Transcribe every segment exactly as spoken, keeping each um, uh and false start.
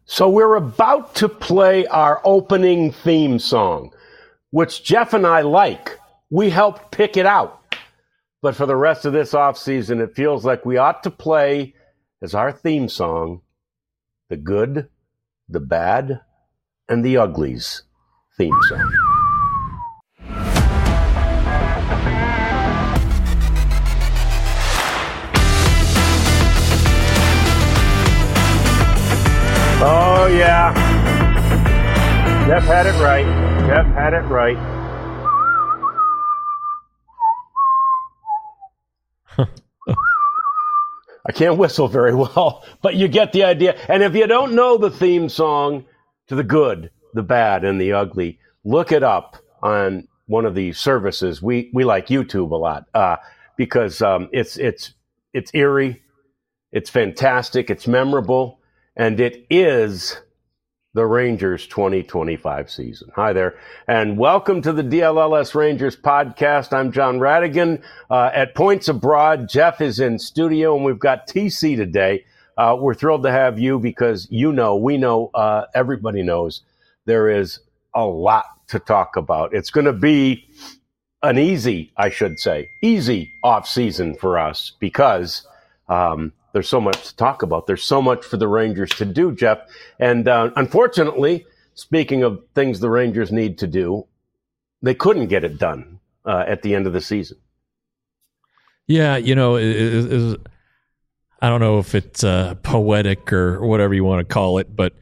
So we're about to play our opening theme song, which Jeff and I like. We helped pick it out. But for the rest of this offseason, it feels like we ought to play as our theme song, the good, the bad, and the uglies theme song. Oh, yeah. Jeff had it right. Jeff had it right. I can't whistle very well, but you get the idea. And if you don't know the theme song to the good, the bad, and the ugly, look it up on one of the services. We we like YouTube a lot uh, because um, it's it's it's eerie, it's fantastic, it's memorable. And it is the Rangers twenty twenty-five season. Hi there, and welcome to the D L L S Rangers podcast. I'm John Radigan. Uh, at Points Abroad, Jeff is in studio, and we've got T C today. Uh, we're thrilled to have you because you know, we know, uh, everybody knows there is a lot to talk about. It's going to be an easy, I should say, easy off season for us because um, – there's so much to talk about. There's so much for the Rangers to do, Jeff. And uh, unfortunately, speaking of things the Rangers need to do, they couldn't get it done uh, at the end of the season. Yeah, you know, it, it, it, I don't know if it's uh, poetic or whatever you want to call it, but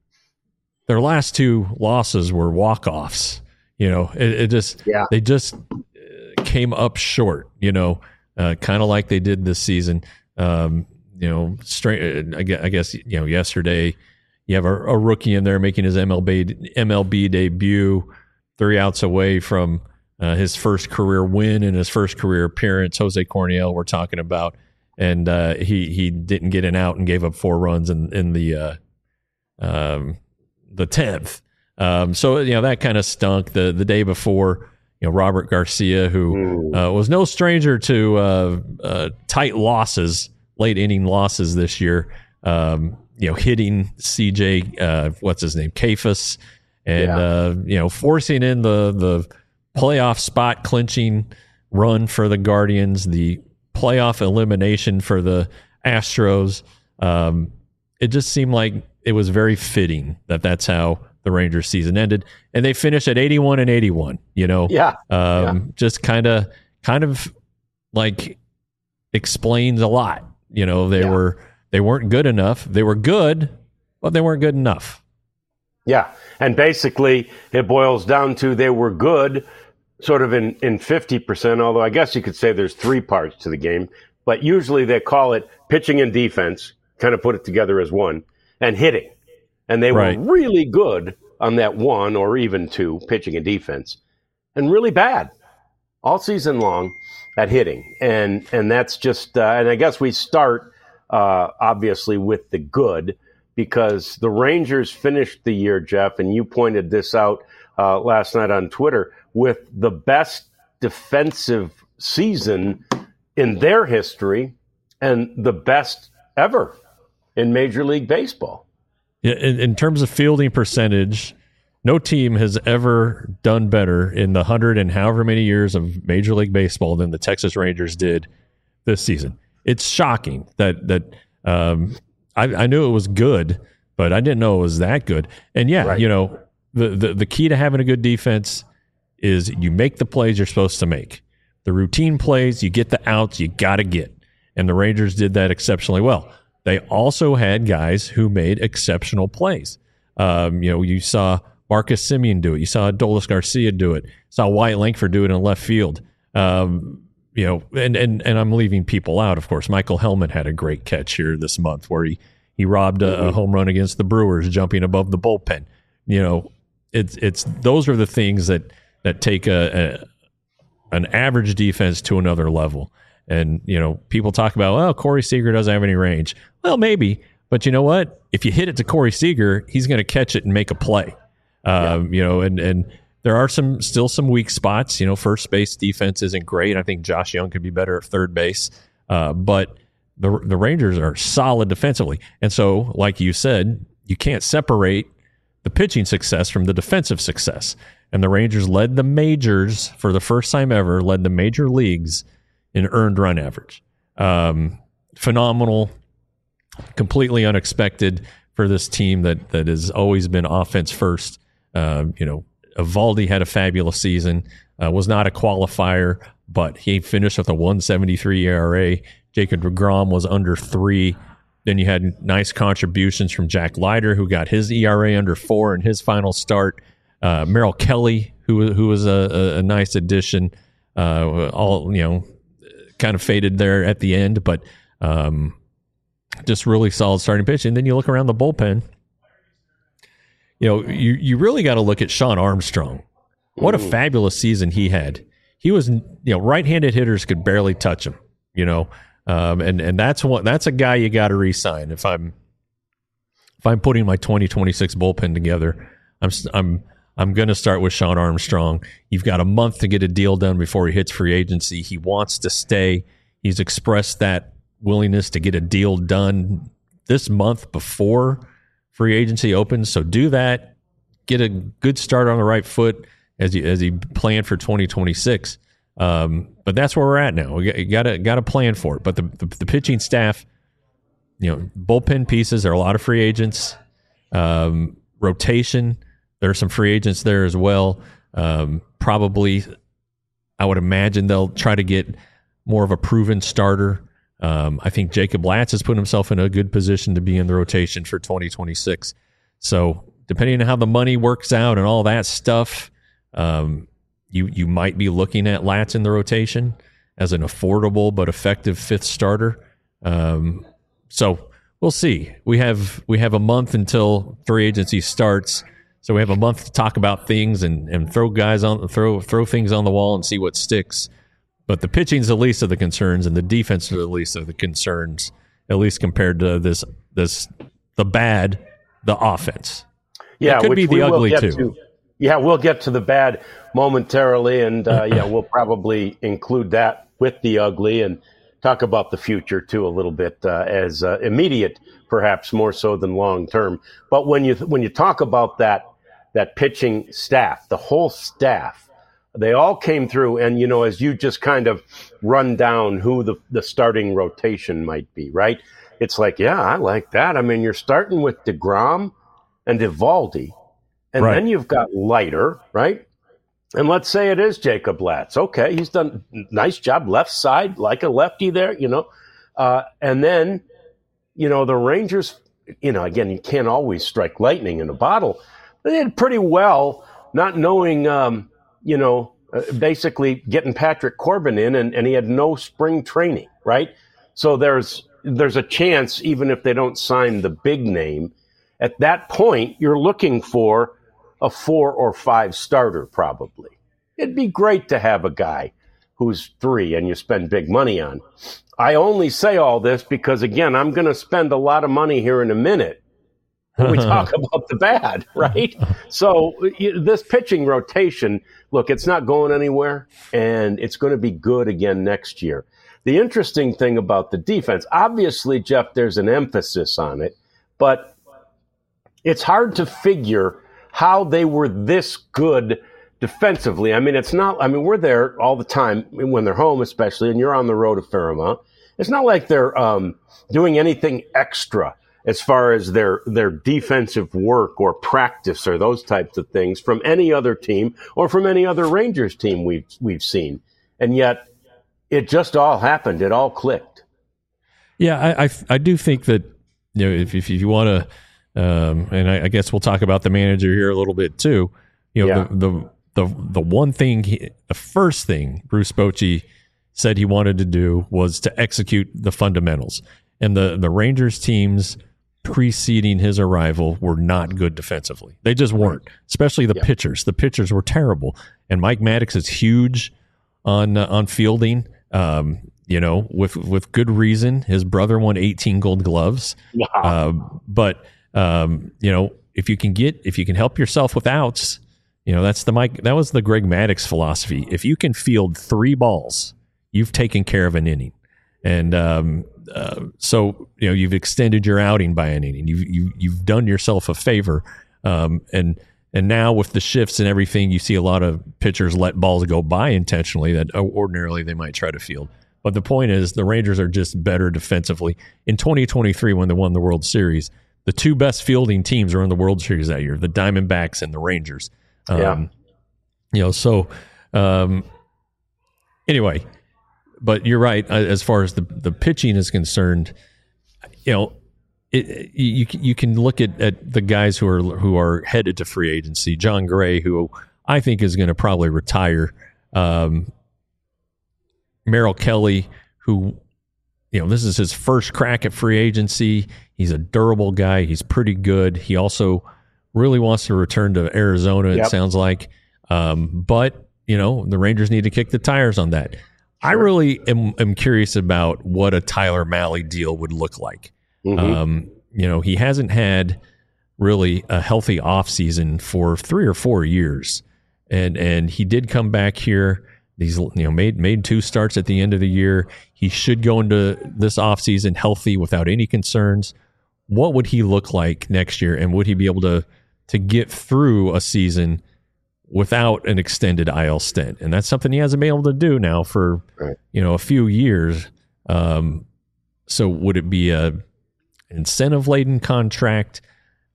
their last two losses were walk-offs. You know, it, it just yeah. they just came up short, you know, uh, kind of like they did this season. Um, you know, straight, I guess, you know, yesterday you have a, a rookie in there making his M L B M L B debut, three outs away from uh, his first career win and his first career appearance. Jose Corniel, we're talking about, and uh, he he didn't get an out and gave up four runs in in the uh, um, the tenth. Um, so you know that kind of stunk. The the day before, you know, Robert Garcia, who uh, was no stranger to uh, uh, tight losses, late inning losses this year, um, you know, hitting C J, uh, what's his name, Kefas, and, yeah. uh, you know, forcing in the, the playoff spot clinching run for the Guardians, the playoff elimination for the Astros. Um, it just seemed like it was very fitting that that's how the Rangers season ended, and they finished at eighty-one and eighty-one, you know, yeah, um, yeah. just kind of, kind of like explains a lot. You know, they yeah. were, they weren't good enough. They were good, but they weren't good enough. Yeah. And basically it boils down to they were good sort of in, in fifty percent, although I guess you could say there's three parts to the game, but usually they call it pitching and defense, kind of put it together as one, and hitting. And they right. were really good on that one or even two, pitching and defense, and really bad all season long at hitting. And and that's just, uh, and I guess we start, uh, obviously, with the good, because the Rangers finished the year, Jeff, and you pointed this out uh, last night on Twitter, with the best defensive season in their history and the best ever in Major League Baseball. Yeah, in, in terms of fielding percentage, no team has ever done better in the hundred and however many years of Major League Baseball than the Texas Rangers did this season. It's shocking that that um, I, I knew it was good, but I didn't know it was that good. And yeah, right. you know, the, the the key to having a good defense is you make the plays you're supposed to make. The routine plays, you get the outs, you got to get. And the Rangers did that exceptionally well. They also had guys who made exceptional plays. Um, you know, you saw Marcus Semien do it. You saw Adolis Garcia do it. You saw Wyatt Langford do it in left field. Um, you know, and, and and I'm leaving people out, of course. Michael Hellman had a great catch here this month where he, he robbed a, a home run against the Brewers, jumping above the bullpen. You know, it's it's those are the things that that take a, a an average defense to another level. And, you know, people talk about, well, Corey Seager doesn't have any range. Well, maybe. But you know what? If you hit it to Corey Seager, he's going to catch it and make a play. Um, yeah. You know, and, and there are some still some weak spots. You know, first base defense isn't great. I think Josh Young could be better at third base. Uh, but the the Rangers are solid defensively. And so, like you said, you can't separate the pitching success from the defensive success. And the Rangers led the majors for the first time ever, led the major leagues in earned run average. Um, phenomenal, completely unexpected for this team that that has always been offense first. Uh, you know, Eovaldi had a fabulous season, uh, was not a qualifier, but he finished with a one seventy-three E R A. Jacob deGrom was under three. Then you had nice contributions from Jack Leiter, who got his E R A under four in his final start. Uh, Merrill Kelly, who who was a, a, a nice addition. Uh, all you know, kind of faded there at the end, but um, just really solid starting pitch. And then you look around the bullpen. You know, you you really got to look at Sean Armstrong. What a fabulous season he had. He was, you know, right-handed hitters could barely touch him. You know, um, and and that's one that's a guy you got to re-sign. If I'm if I'm putting my twenty twenty-six bullpen together, I'm I'm I'm going to start with Sean Armstrong. You've got a month to get a deal done before he hits free agency. He wants to stay. He's expressed that willingness to get a deal done this month before free agency opens. So do that. Get a good start on the right foot as he as he plan for twenty twenty-six. Um, but that's where we're at now. We got to got to plan for it. But the, the the pitching staff, you know, bullpen pieces. There are a lot of free agents. Um, rotation. There are some free agents there as well. Um, probably, I would imagine they'll try to get more of a proven starter. Um, I think Jacob Latz has put himself in a good position to be in the rotation for twenty twenty-six. So depending on how the money works out and all that stuff, um, you you might be looking at Latz in the rotation as an affordable but effective fifth starter. Um, so we'll see. We have we have a month until free agency starts. So we have a month to talk about things and, and throw guys on throw throw things on the wall and see what sticks. But the pitching's the least of the concerns, and the defense is the least of the concerns, at least compared to this this the bad, the offense. Yeah, it could which be the we ugly will get too. To. Yeah, we'll get to the bad momentarily, and uh, yeah, we'll probably include that with the ugly and talk about the future too a little bit uh, as uh, immediate, perhaps more so than long term. But when you when you talk about that that pitching staff, the whole staff. They all came through, and, you know, as you just kind of run down who the, the starting rotation might be, right? It's like, yeah, I like that. I mean, you're starting with DeGrom and Eovaldi, and right. Then you've got Leiter, right? And let's say it is Jacob Latz. Okay, he's done a nice job, left side, like a lefty there, you know. Uh, and then, you know, the Rangers, you know, again, you can't always strike lightning in a bottle. They did pretty well, not knowing um, – you know, uh, basically getting Patrick Corbin in, and, and he had no spring training, right? So there's there's a chance, even if they don't sign the big name, at that point, you're looking for a four or five starter probably. It'd be great to have a guy who's three and you spend big money on. I only say all this because, again, I'm going to spend a lot of money here in a minute when we talk about the bad, right? So this pitching rotation, look, it's not going anywhere, and it's going to be good again next year. The interesting thing about the defense, obviously, Jeff, there's an emphasis on it, but it's hard to figure how they were this good defensively. I mean, it's not, I mean, we're there all the time when they're home, especially, and you're on the road a fair amount. It's not like they're um, doing anything extra as far as their their defensive work or practice or those types of things from any other team or from any other Rangers team we've we've seen. And yet it just all happened. It all clicked. Yeah, I I, I do think that, you know, if if you want to, um, and I, I guess we'll talk about the manager here a little bit too. You know, yeah. the, the the the one thing, he, the first thing Bruce Bochy said he wanted to do was to execute the fundamentals. And the the Rangers teams preceding his arrival were not good defensively. They just weren't, especially the yeah. pitchers. The pitchers were terrible. And Mike Maddox is huge on uh, on fielding, um, you know, with, with good reason. His brother won eighteen Gold Gloves. Wow. Uh, but, um, you know, if you can get, if you can help yourself with outs, you know, that's the Mike, that was the Greg Maddox philosophy. If you can field three balls, you've taken care of an inning. And, um, uh, so you know you've extended your outing by an inning. You've you, you've done yourself a favor, um, and and now with the shifts and everything, you see a lot of pitchers let balls go by intentionally that ordinarily they might try to field. But the point is, the Rangers are just better defensively. In twenty twenty-three, when they won the World Series, the two best fielding teams were in the World Series that year: the Diamondbacks and the Rangers. Um, yeah. You know, so um, anyway. But you're right, as far as the, the pitching is concerned, you know, it, you you can look at, at the guys who are who are headed to free agency. John Gray, who I think is going to probably retire. Um, Merrill Kelly, who, you know, this is his first crack at free agency. He's a durable guy. He's pretty good. He also really wants to return to Arizona, it yep. sounds like. Um, but, you know, the Rangers need to kick the tires on that. I really am, am curious about what a Tyler Mahle deal would look like. Mm-hmm. Um, you know, he hasn't had really a healthy offseason for three or four years. And and he did come back here. He's you know made made two starts at the end of the year. He should go into this offseason healthy without any concerns. What would he look like next year? And would he be able to to get through a season without an extended I L stint? And that's something he hasn't been able to do now for, right. you know, a few years. Um, so would it be a incentive-laden contract?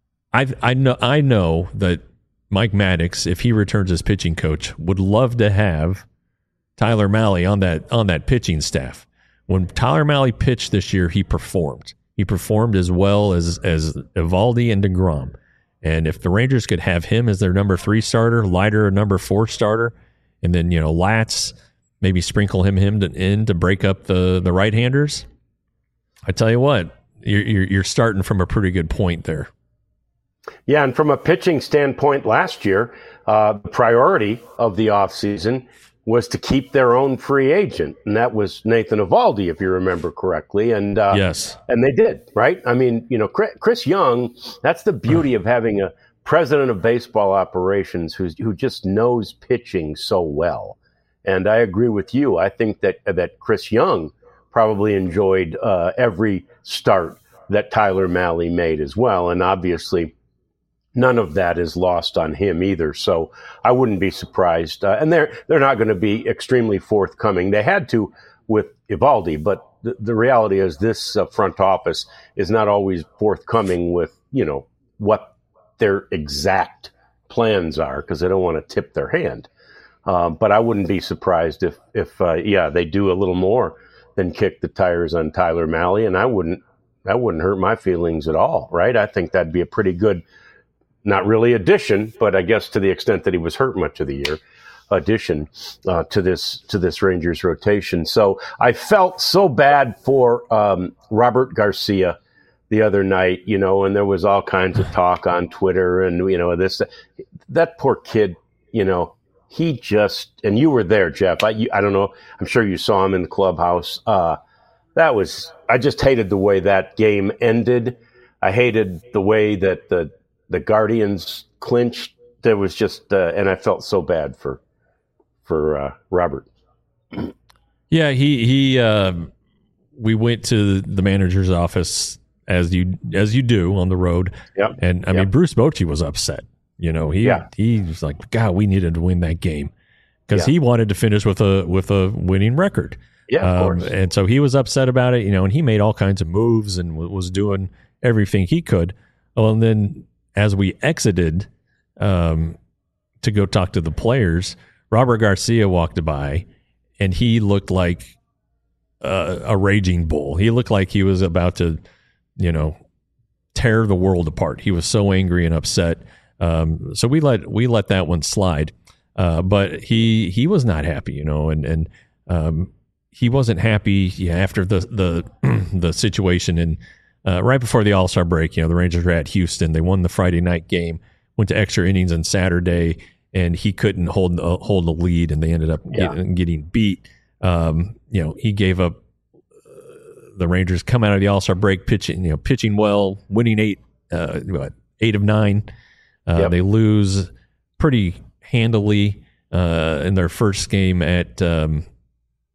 I I know I know that Mike Maddox, if he returns as pitching coach, would love to have Tyler Mahle on that on that pitching staff. When Tyler Mahle pitched this year, he performed. He performed as well as as Eovaldi and DeGrom. And if the Rangers could have him as their number three starter, Leiter a number four starter, and then, you know, Latz, maybe sprinkle him him to, in to break up the, the right-handers, I tell you what, you're, you're you're starting from a pretty good point there. Yeah, and from a pitching standpoint last year, uh, the priority of the offseason was to keep their own free agent, and that was Nathan Eovaldi, if you remember correctly. And uh, yes, and they did, right? I mean, you know, Chris Young. That's the beauty of having a president of baseball operations who's who just knows pitching so well. And I agree with you. I think that that Chris Young probably enjoyed uh, every start that Tyler Mahle made as well, and obviously none of that is lost on him either. So I wouldn't be surprised. Uh, and they're they're not going to be extremely forthcoming. They had to with Eovaldi, but the, the reality is this uh, front office is not always forthcoming with, you know, what their exact plans are because they don't want to tip their hand. Uh, but I wouldn't be surprised if, if uh, yeah, they do a little more than kick the tires on Tyler Mahle. And I wouldn't, that wouldn't hurt my feelings at all, right? I think that'd be a pretty good, not really addition, but I guess to the extent that he was hurt much of the year, addition uh, to this to this Rangers rotation. So I felt so bad for um, Robert Garcia the other night, you know, and there was all kinds of talk on Twitter and, you know, this, that poor kid, you know, he just, and you were there, Jeff. I, you, I don't know. I'm sure you saw him in the clubhouse. Uh, that was, I just hated the way that game ended. I hated the way that the, the Guardians clinched. There was just, uh, and I felt so bad for, for uh, Robert. Yeah, he he. Uh, we went to the manager's office as you as you do on the road. Yep. And I yep. mean, Bruce Bochy was upset. You know, he yeah. he was like, God, we needed to win that game because yeah. he wanted to finish with a with a winning record. Yeah, of um, course. And so he was upset about it. You know, and he made all kinds of moves and w- was doing everything he could. Well, and then as we exited um, to go talk to the players, Robert Garcia walked by, and he looked like uh, a raging bull. He looked like he was about to, you know, tear the world apart. He was so angry and upset. Um, so we let we let that one slide. Uh, but he he was not happy, you know, and and um, he wasn't happy yeah, after the the the situation in. Uh, right before the All-Star break, you know, the Rangers were at Houston. They won the Friday night game, went to extra innings on Saturday, and he couldn't hold uh, hold the lead, and they ended up yeah. getting, getting beat. Um, you know, he gave up. Uh, the Rangers come out of the All-Star break pitching, you know, pitching well, winning eight, uh, what, eight of nine. Uh, yep. They lose pretty handily uh, in their first game at um,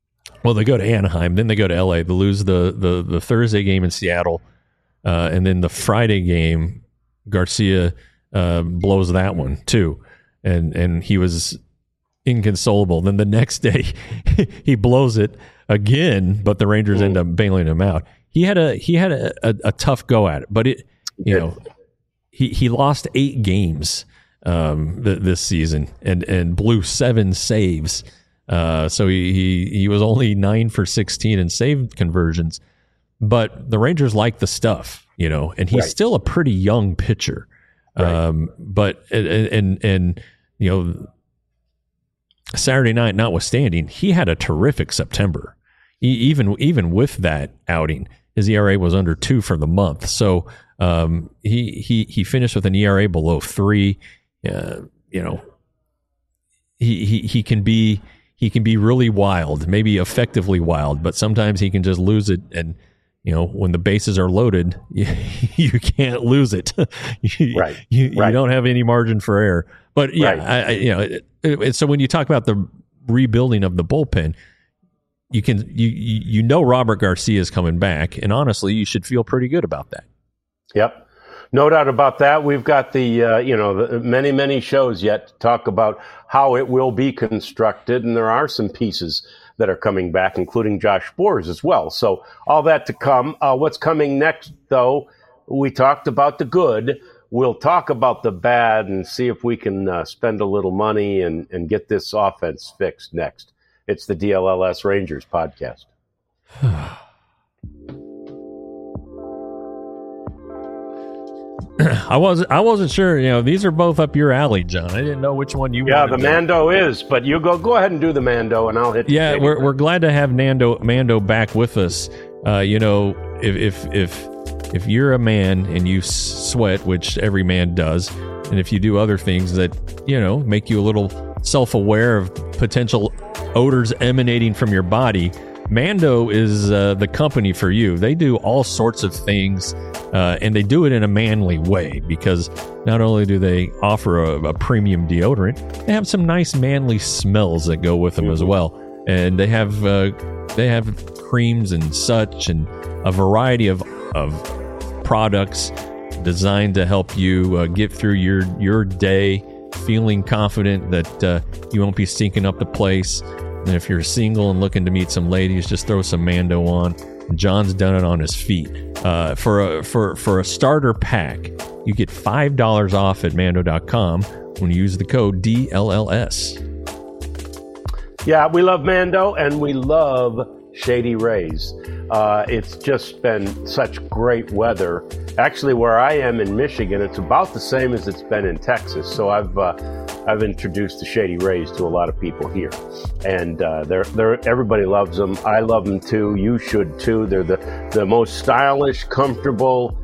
Well, they go to Anaheim, then they go to L A. They lose the the, the Thursday game in Seattle, uh, and then the Friday game, Garcia uh, blows that one too, and and he was inconsolable. Then the next day, he blows it again, but the Rangers mm. end up bailing him out. He had a he had a, a, a tough go at it, but it you know he he lost eight games um, th- this season and and blew seven saves. Uh, so he, he he was only nine for sixteen in save conversions, but the Rangers like the stuff, you know, and he's right. still a pretty young pitcher. Right. Um, but and, and and you know, Saturday night notwithstanding, he had a terrific September. He, even even with that outing, his E R A was under two for the month. So um, he he he finished with an E R A below three. Uh, you know, he he he can be. He can be really wild, maybe effectively wild, but sometimes he can just lose it. And, you know, when the bases are loaded, you, you can't lose it. you, right. You, right. you don't have any margin for error. But, yeah, right. I, I, you know, it, it, so when you talk about the rebuilding of the bullpen, you can you you know Robert Garcia is coming back, and honestly, you should feel pretty good about that. Yep. No doubt about that. We've got the, uh, you know, the many, many shows yet to talk about how it will be constructed. And there are some pieces that are coming back, including Josh Sborz as well. So all that to come. Uh, what's coming next, though, we talked about the good. We'll talk about the bad and see if we can uh, spend a little money and, and get this offense fixed next. It's the D L L S Rangers podcast. I wasn't. I wasn't sure. You know, these are both up your alley, John. I didn't know which one you. Yeah, wanted the to. Mando is, but you go. Go ahead and do the Mando, and I'll hit. Yeah, we're we're glad to have Nando Mando back with us. Uh, you know, if if if if you're a man and you sweat, which every man does, and if you do other things that you know make you a little self-aware of potential odors emanating from your body, Mando is uh, the company for you. They do all sorts of things. Uh, and they do it in a manly way because not only do they offer a, a premium deodorant, they have some nice manly smells that go with them mm-hmm. as well. And they have uh, they have creams and such, and a variety of of products designed to help you uh, get through your your day, feeling confident that uh, you won't be stinking up the place. And if you're single and looking to meet some ladies, just throw some Mando on. John's done it on his feet. Uh, for a for for a starter pack, you get five dollars off at Mando dot com when you use the code D L L S. Yeah, we love Mando and we love Shady Rays. Uh, it's just been such great weather. Actually, where I am in Michigan, it's about the same as it's been in Texas. So I've uh, I've introduced the Shady Rays to a lot of people here, and uh, they're they're everybody loves them. I love them too. You should too. They're the the most stylish, comfortable,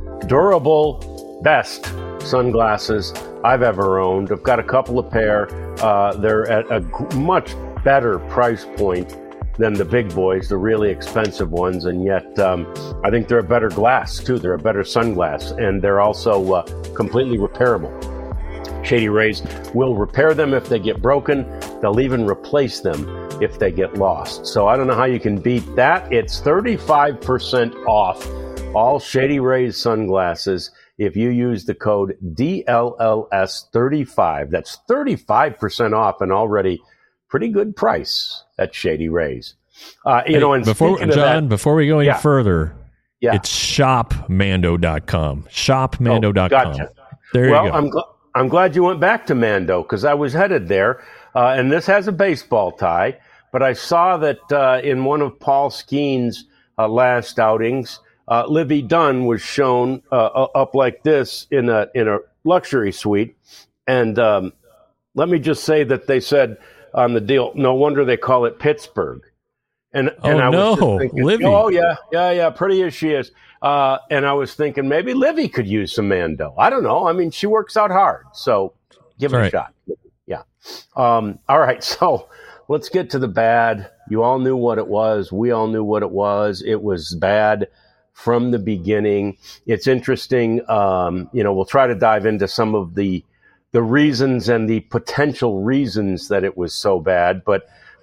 durable, best sunglasses I've ever owned. I've got a couple of pair. Uh, they're at a much better price point than the big boys, the really expensive ones, and yet um, I think they're a better glass too. They're a better sunglass, and they're also uh, completely repairable. Shady Rays will repair them if they get broken. They'll even replace them if they get lost. So I don't know how you can beat that. It's thirty-five percent off all Shady Rays sunglasses if you use the code D L L S thirty-five. That's thirty-five percent off an already pretty good price at Shady Rays. Uh, you hey, know, and before John, that, before we go any yeah, further, yeah. it's shop Mando dot com. shop Mando dot com. Oh, gotcha. There well, you go. I'm glad. I'm glad you went back to Mando because I was headed there, uh, and this has a baseball tie. But I saw that uh, in one of Paul Skeen's uh, last outings, uh, Livy Dunn was shown uh, up like this in a in a luxury suite. And um, let me just say that they said on the deal, no wonder they call it Pittsburgh. And oh and I no, was just thinking, Livy. Oh yeah, yeah, yeah, pretty as she is. Uh, and I was thinking maybe Livy could use some Mando. I don't know. I mean, she works out hard, so give That's it right. a shot. Yeah. Um, all right. So let's get to the bad. You all knew what it was. We all knew what it was. It was bad from the beginning. It's interesting. Um, you know, we'll try to dive into some of the the reasons and the potential reasons that it was so bad. But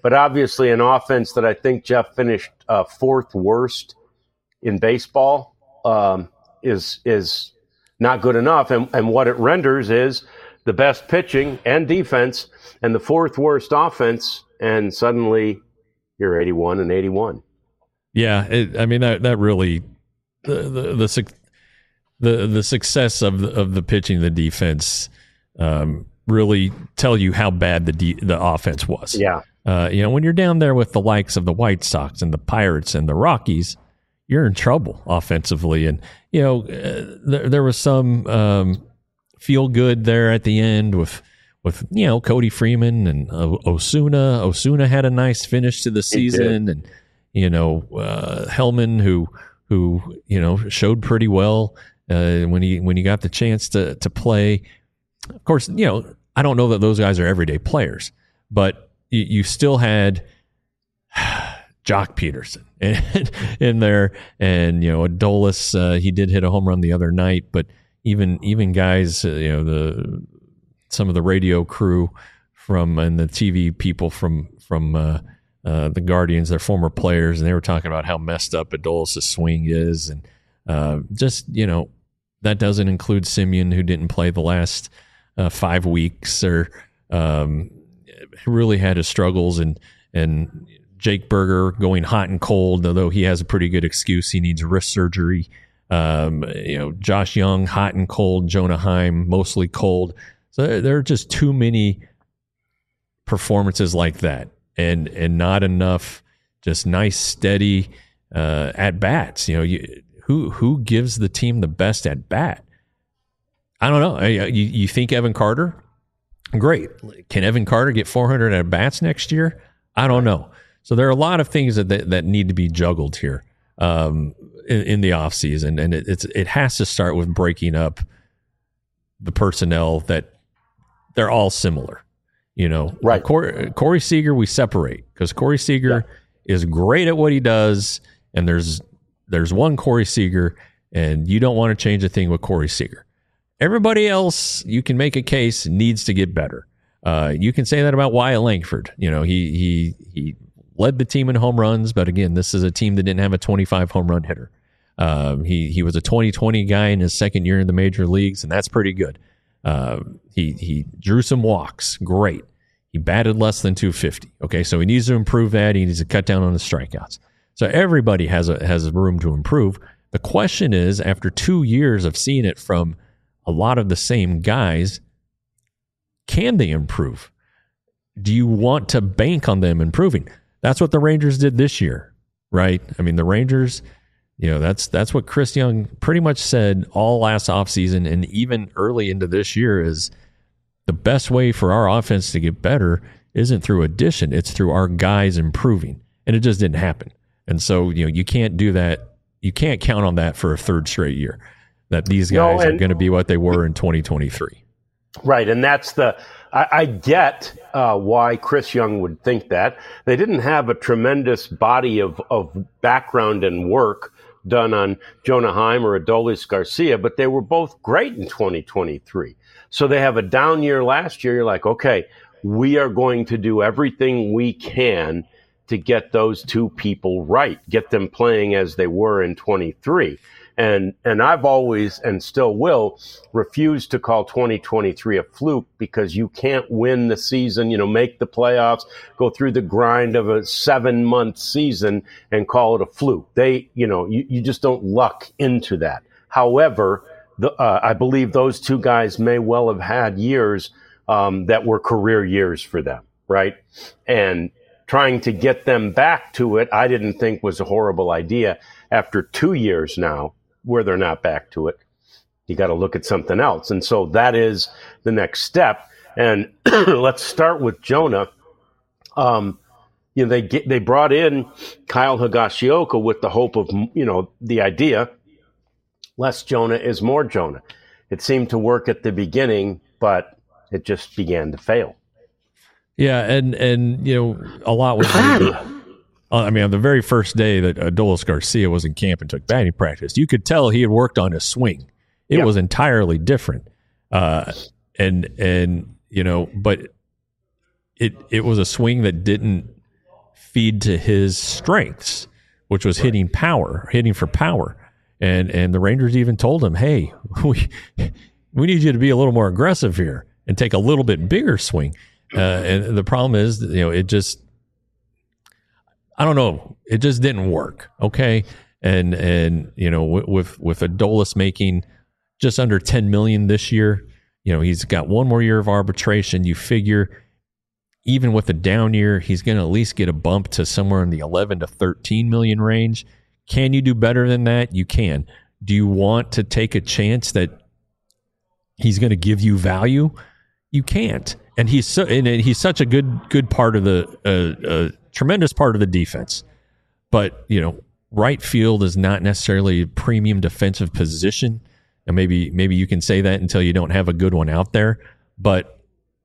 but obviously an offense that I think Jeff finished uh, fourth worst in baseball um, is is not good enough. And, and what it renders is the best pitching and defense and the fourth worst offense, and suddenly you're eighty-one and eighty-one. Yeah, it, I mean that that really the the the the, the success of the, of the pitching, the defense, um, really tell you how bad the de- the offense was. Yeah, uh, you know, when you're down there with the likes of the White Sox and the Pirates and the Rockies, you're in trouble offensively. And you know, uh, there there was some um, feel good there at the end with. With you know Cody Freeman and uh, Osuna. Osuna had a nice finish to the season, and you know uh, Hellman, who who you know showed pretty well uh, when he when he got the chance to to play. Of course, you know I don't know that those guys are everyday players, but you, you still had Jock Peterson in, in there, and you know Adolis. Uh, he did hit a home run the other night, but even even guys, uh, you know the. Some of the radio crew from and the T V people from from uh, uh, the Guardians, they're former players, and they were talking about how messed up Adolis' swing is, and uh, just you know that doesn't include Simeon, who didn't play the last uh, five weeks, or um, really had his struggles, and and Jake Berger going hot and cold, although he has a pretty good excuse, he needs wrist surgery. Um, you know, Josh Young hot and cold, Jonah Heim mostly cold. So there are just too many performances like that, and and not enough just nice, steady uh, at bats. You know, you, who who gives the team the best at bat? I don't know. You, you think Evan Carter? Great. Can Evan Carter get four hundred at bats next year? I don't know. So there are a lot of things that that, that need to be juggled here um, in, in the offseason, and it, it's it has to start with breaking up the personnel that. They're all similar, you know. Right. Corey, Corey Seager, we separate because Corey Seager yeah. is great at what he does, and there's there's one Corey Seager, and you don't want to change a thing with Corey Seager. Everybody else, you can make a case needs to get better. Uh, you can say that about Wyatt Langford. You know, he he he led the team in home runs, but again, this is a team that didn't have a twenty-five home run hitter. Um, he he was a twenty twenty guy in his second year in the major leagues, and that's pretty good. Uh, he he drew some walks. Great. He batted less than two fifty. Okay, so he needs to improve that. He needs to cut down on the strikeouts. So everybody has a has room to improve. The question is, after two years of seeing it from a lot of the same guys, can they improve? Do you want to bank on them improving? That's what the Rangers did this year, right? I mean, the Rangers... You know, that's that's what Chris Young pretty much said all last offseason and even early into this year is the best way for our offense to get better isn't through addition. It's through our guys improving. And it just didn't happen. And so, you know, you can't do that. You can't count on that for a third straight year, that these guys no, and, are going to be what they were in twenty twenty-three. Right. And that's the I, I get uh, why Chris Young would think that. They didn't have a tremendous body of, of background and work done on Jonah Heim or Adolis Garcia, but they were both great in twenty twenty-three. So they have a down year last year. You're like, okay, we are going to do everything we can to get those two people right, get them playing as they were in twenty-three. And and I've always, and still will, refuse to call twenty twenty-three a fluke because you can't win the season, you know, make the playoffs, go through the grind of a seven-month season and call it a fluke. They, you know, you, you just don't luck into that. However, the, uh, I believe those two guys may well have had years um, that were career years for them, right? And trying to get them back to it, I didn't think was a horrible idea. After two years now, where they're not back to it, you got to look at something else. And so that is the next step. And let's start with Jonah. Um, you know, they get, they brought in Kyle Higashioka with the hope of, you know, the idea, less Jonah is more Jonah. It seemed to work at the beginning, but it just began to fail. Yeah, and, and you know, a lot was I mean, on the very first day that Adolis Garcia was in camp and took batting practice, you could tell he had worked on his swing. It yeah. was entirely different. Uh, and, and, you know, but it, it was a swing that didn't, feed to his strengths, which was right. hitting power, hitting for power. And and the Rangers even told him, hey, we we need you to be a little more aggressive here and take a little bit bigger swing. Uh, and the problem is, you know, it just, I don't know, it just didn't work. Okay. And, and, you know, with, with Adolis making just under ten million this year, you know, he's got one more year of arbitration. You figure even with a down year, he's going to at least get a bump to somewhere in the eleven to thirteen million range. Can you do better than that? You can. Do you want to take a chance that he's going to give you value? You can't. And he's so, and he's such a good good part of the uh, uh, tremendous part of the defense. But you know, right field is not necessarily a premium defensive position. And maybe maybe you can say that until you don't have a good one out there. But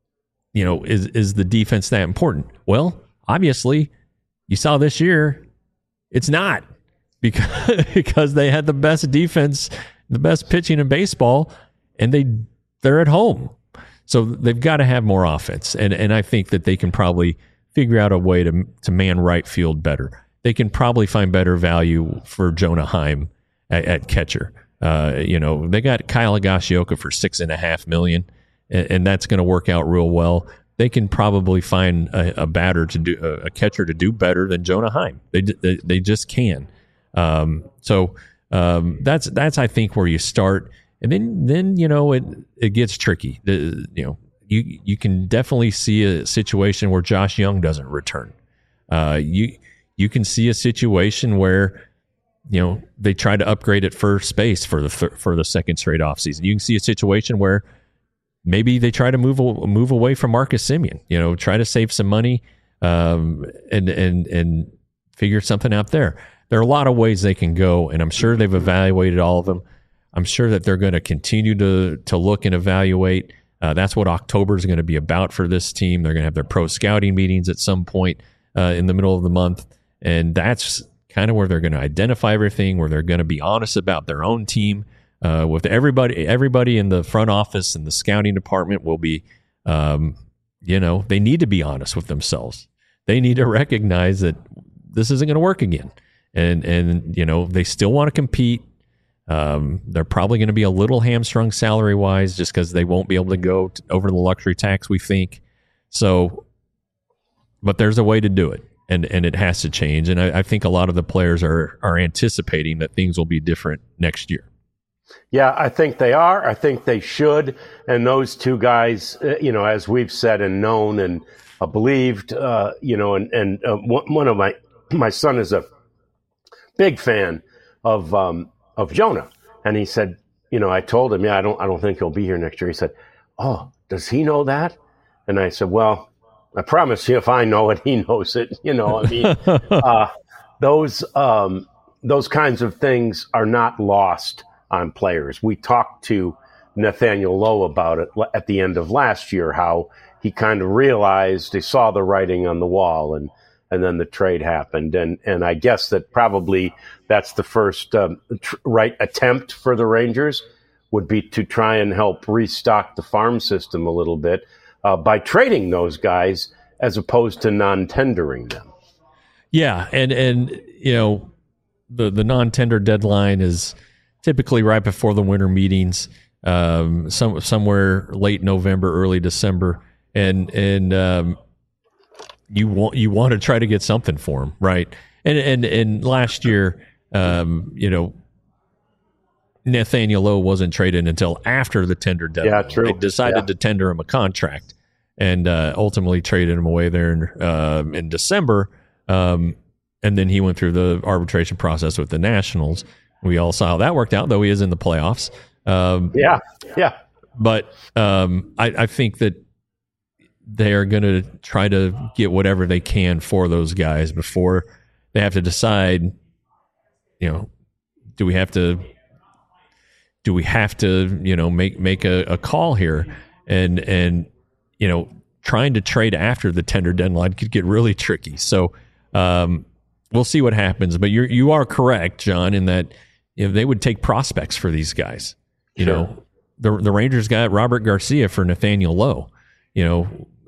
you know, is is the defense that important? Well, obviously, you saw this year, it's not. Because because they had the best defense, the best pitching in baseball, and they they're at home, so they've got to have more offense. And and I think that they can probably figure out a way to to man right field better. They can probably find better value for Jonah Heim at, at catcher. Uh, you know, they got Kyle Higashioka for six and a half million, and, and that's going to work out real well. They can probably find a, a batter to do a, a catcher to do better than Jonah Heim. They they, they just can. Um, so, um, that's, that's, I think where you start, and then, then, you know, it, it gets tricky. The, you know, you, you can definitely see a situation where Josh Young doesn't return. Uh, you, you can see a situation where, you know, they try to upgrade at first base for the, for the second straight offseason. You can see a situation where maybe they try to move, move away from Marcus Semien, you know, try to save some money, um, and, and, and figure something out there. There are a lot of ways they can go, and I'm sure they've evaluated all of them. I'm sure that they're going to continue to to look and evaluate. Uh, that's what October is going to be about for this team. They're going to have their pro scouting meetings at some point uh, in the middle of the month, and that's kind of where they're going to identify everything, where they're going to be honest about their own team. Uh, with everybody, everybody in the front office and the scouting department will be, um, you know, they need to be honest with themselves. They need to recognize that this isn't going to work again. And, and you know, they still want to compete. Um, they're probably going to be a little hamstrung salary-wise just because they won't be able to go to, over the luxury tax, we think. So, but there's a way to do it, and, and it has to change. And I, I think a lot of the players are are anticipating that things will be different next year. Yeah, I think they are. I think they should. And those two guys, uh, you know, as we've said and known and uh, believed, uh, you know, and, and uh, one of my, my son is a big fan of um, of Jonah, and he said, you know, I told him, yeah, I don't, I don't think he'll be here next year. He said, oh, does he know that? And I said, well, I promise you, if I know it, he knows it. You know, I mean, uh, those um, those kinds of things are not lost on players. We talked to Nathaniel Lowe about it at the end of last year, how he kind of realized he saw the writing on the wall, and. And then the trade happened, and and I guess that probably that's the first um, tr- right attempt for the Rangers would be to try and help restock the farm system a little bit uh, by trading those guys as opposed to non-tendering them. Yeah, and and you know the the non-tender deadline is typically right before the winter meetings, um, some somewhere late November, early December, and and. Um, You want you want to try to get something for him, right? And and and last year, um, you know, Nathaniel Lowe wasn't traded until after the tender deadline. Yeah, true. They decided yeah. to tender him a contract, and uh, ultimately traded him away there in, uh, in December. Um, and then he went through the arbitration process with the Nationals. We all saw how that worked out, though he is in the playoffs. Um, yeah, yeah. But um, I, I think that. They are going to try to get whatever they can for those guys before they have to decide, you know, do we have to, do we have to, you know, make, make a, a call here, and, and, you know, trying to trade after the tender deadline could get really tricky. So, um, we'll see what happens, but you're, you are correct, John, in that you know, they would take prospects for these guys. You sure. know, the, the Rangers got Robert Garcia for Nathaniel Lowe. You know,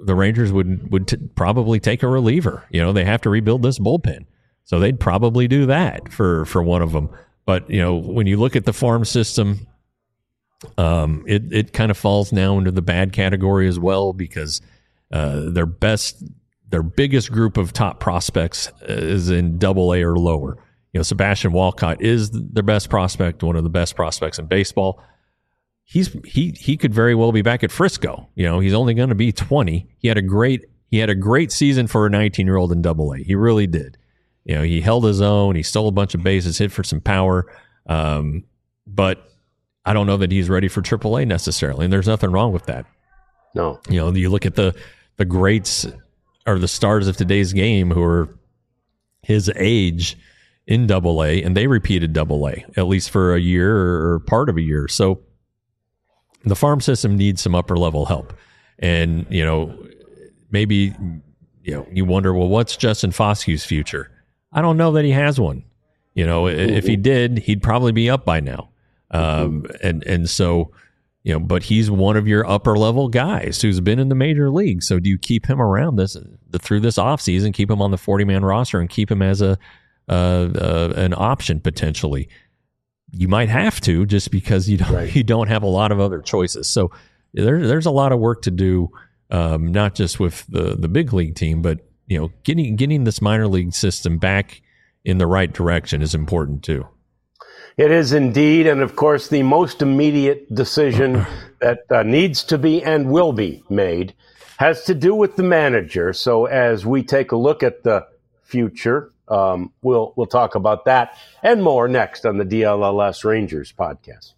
the Rangers would would t- probably take a reliever. You know, they have to rebuild this bullpen, so they'd probably do that for for one of them. But you know, when you look at the farm system, um, it it kind of falls now into the bad category as well, because uh, their best, their biggest group of top prospects is in Double A or lower. You know, Sebastian Walcott is their best prospect, one of the best prospects in baseball. He's he he could very well be back at Frisco. You know, he's only going to be twenty. He had a great he had a great season for a nineteen-year-old in Double A. He really did. You know, he held his own. He stole a bunch of bases, hit for some power. Um, but I don't know that he's ready for Triple A necessarily, and there's nothing wrong with that. No, you know, you look at the the greats or the stars of today's game who are his age in Double A, and they repeated Double A at least for a year or part of a year. So the farm system needs some upper level help. And, you know, maybe, you know, you wonder, well, what's Justin Foskew's future? I don't know that he has one. You know, mm-hmm. if he did, he'd probably be up by now. Um, mm-hmm. and, and so, you know, but he's one of your upper level guys who's been in the major league. So do you keep him around this the, through this offseason, keep him on the forty man roster and keep him as a, Uh, uh, an option potentially? You might have to, just because you don't right. you don't have a lot of other choices. So there, there's a lot of work to do, um, not just with the the big league team, but you know, getting getting this minor league system back in the right direction is important too. It is indeed, and of course, the most immediate decision that uh, needs to be and will be made has to do with the manager. So as we take a look at the future, Um, we'll we'll talk about that and more next on the D L L S Rangers podcast.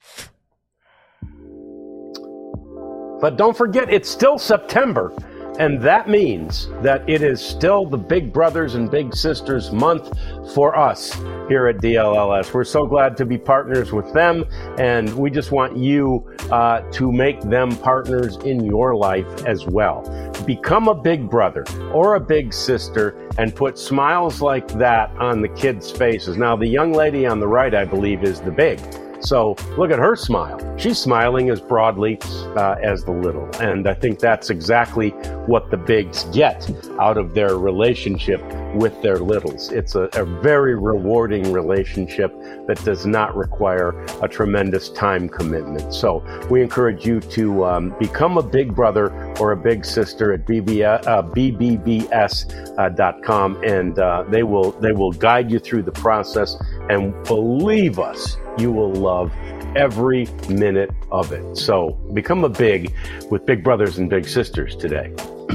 But don't forget, it's still September, and that means that it is still the Big Brothers and Big Sisters month for us here at D L L S. We're so glad to be partners with them, and we just want you uh, to make them partners in your life as well. Become a big brother or a big sister and put smiles like that on the kids' faces. Now, the young lady on the right, I believe, is the big. So look at her smile. She's smiling as broadly uh, as the little. And I think that's exactly what the bigs get out of their relationship with their littles. It's a, a very rewarding relationship that does not require a tremendous time commitment. So we encourage you to um, become a big brother or a big sister at B B, uh, B B B S dot com, and uh, they will they will guide you through the process. And believe us, you will love every minute of it. So become a big with Big Brothers and Big Sisters today.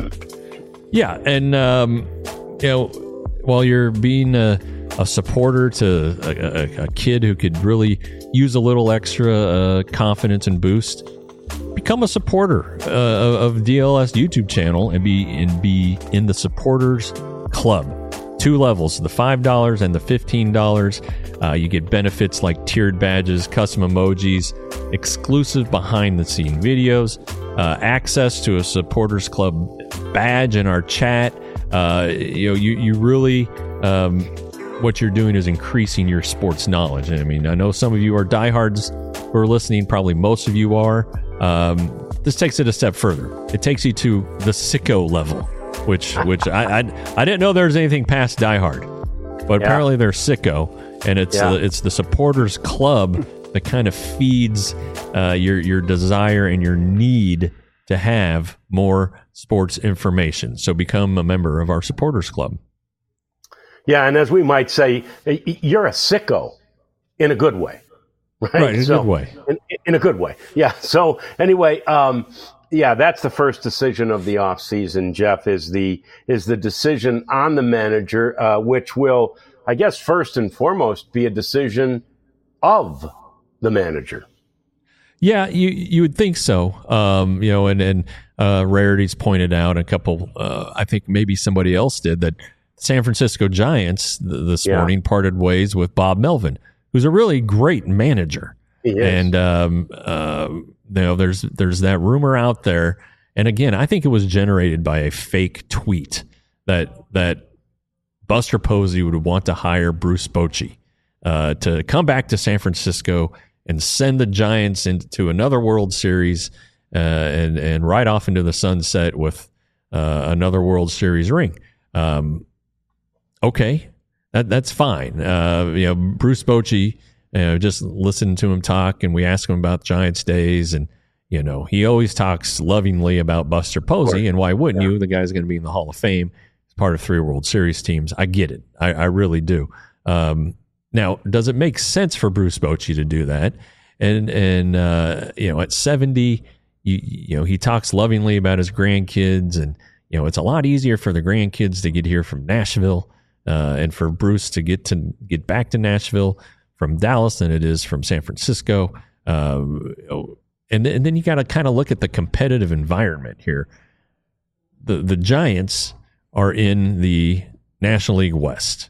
Yeah, and um, you know, while you're being a, a supporter to a, a, a kid who could really use a little extra uh, confidence and boost, become a supporter uh, of D L S YouTube channel and be and be in the supporters club. Two levels, the five dollars and the fifteen dollars. Uh, you get benefits like tiered badges, custom emojis, exclusive behind-the-scene videos, uh, access to a supporters club badge in our chat. Uh, you know, you you really um, what you're doing is increasing your sports knowledge. I mean, I know some of you are diehards who are listening. Probably most of you are. Um, this takes it a step further. It takes you to the sicko level, which which I, I I didn't know there was anything past diehard, but yeah. Apparently there's sicko, and it's yeah. uh, it's the supporters club that kind of feeds uh, your your desire and your need to have more sports information. So become a member of our supporters club. Yeah, and as we might say, you're a sicko in a good way. Right, right in a so, good way. In, in a good way, yeah. So anyway, um, yeah, that's the first decision of the off season. Jeff, is the is the decision on the manager, uh, which will, I guess, first and foremost, be a decision of the manager. Yeah, you you would think so. Um, you know, and and uh, Rarity's pointed out a couple. Uh, I think maybe somebody else did that. San Francisco Giants th- this yeah. morning parted ways with Bob Melvin, who's a really great manager. He is. And um, uh, you know, there's there's that rumor out there, and again, I think it was generated by a fake tweet that that Buster Posey would want to hire Bruce Bochy uh, to come back to San Francisco and send the Giants into another World Series uh, and and right off into the sunset with uh, another World Series ring. Um, okay, that that's fine. Uh, you know, Bruce Bochy, you know, just listen to him talk, and we ask him about Giants days, and you know, he always talks lovingly about Buster Posey, and why wouldn't yeah. you? The guy's going to be in the Hall of Fame. He's part of three World Series teams. I get it. I, I really do. Um, now, does it make sense for Bruce Bochy to do that? And and uh, you know, at seventy, you, you know, he talks lovingly about his grandkids, and you know, it's a lot easier for the grandkids to get here from Nashville, uh, and for Bruce to get to get back to Nashville from Dallas than it is from San Francisco. Um, And, and then you got to kind of look at the competitive environment here. The the Giants are in the National League West.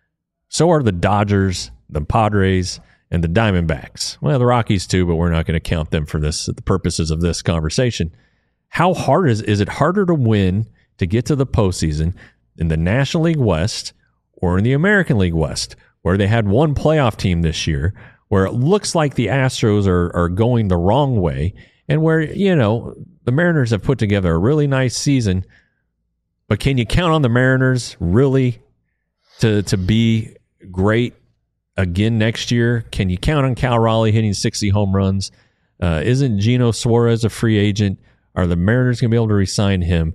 So are the Dodgers, the Padres, and the Diamondbacks. Well, the Rockies too, but we're not going to count them for this the purposes of this conversation. How hard is is it harder to win to get to the postseason in the National League West or in the American League West, where they had one playoff team this year, where it looks like the Astros are, are going the wrong way, and where, you know, the Mariners have put together a really nice season, but can you count on the Mariners really to to be great again next year? Can you count on Cal Raleigh hitting sixty home runs? Uh, isn't Geno Suarez a free agent? Are the Mariners going to be able to re-sign him?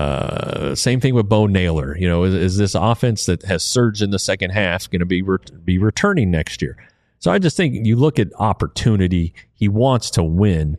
Uh, same thing with Bo Naylor. You know, is, is this offense that has surged in the second half going to be re- be returning next year? So I just think you look at opportunity. He wants to win.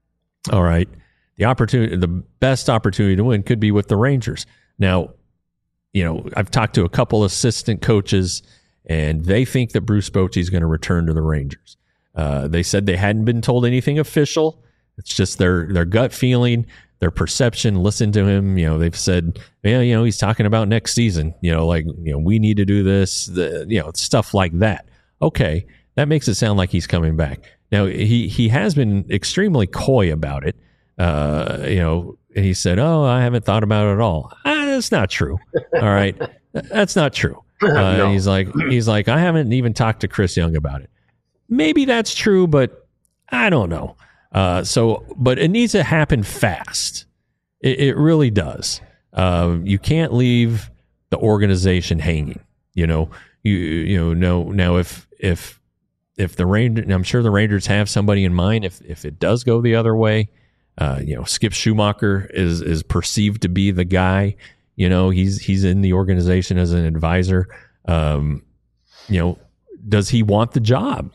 All right. The opportunity, the best opportunity to win could be with the Rangers. Now, you know, I've talked to a couple assistant coaches, and they think that Bruce Bochy is going to return to the Rangers. Uh, they said they hadn't been told anything official. It's just their their gut feeling, their perception. Listen to him. You know, they've said, yeah, you know, he's talking about next season. You know, like, you know, we need to do this. The, you know, stuff like that. Okay. That makes it sound like he's coming back. Now, he, he has been extremely coy about it. Uh, you know, and he said, oh, I haven't thought about it at all. Ah, that's not true. All right. That's not true. Uh, no. And he's like, he's like, I haven't even talked to Chris Young about it. Maybe that's true, but I don't know. Uh, so, but it needs to happen fast. It, it really does. Uh, you can't leave the organization hanging, you know, you, you know, no, now if, if, If the Rangers, I'm sure the Rangers have somebody in mind. If if it does go the other way, uh, you know, Skip Schumacher is is perceived to be the guy. You know, he's he's in the organization as an advisor. Um, you know, does he want the job?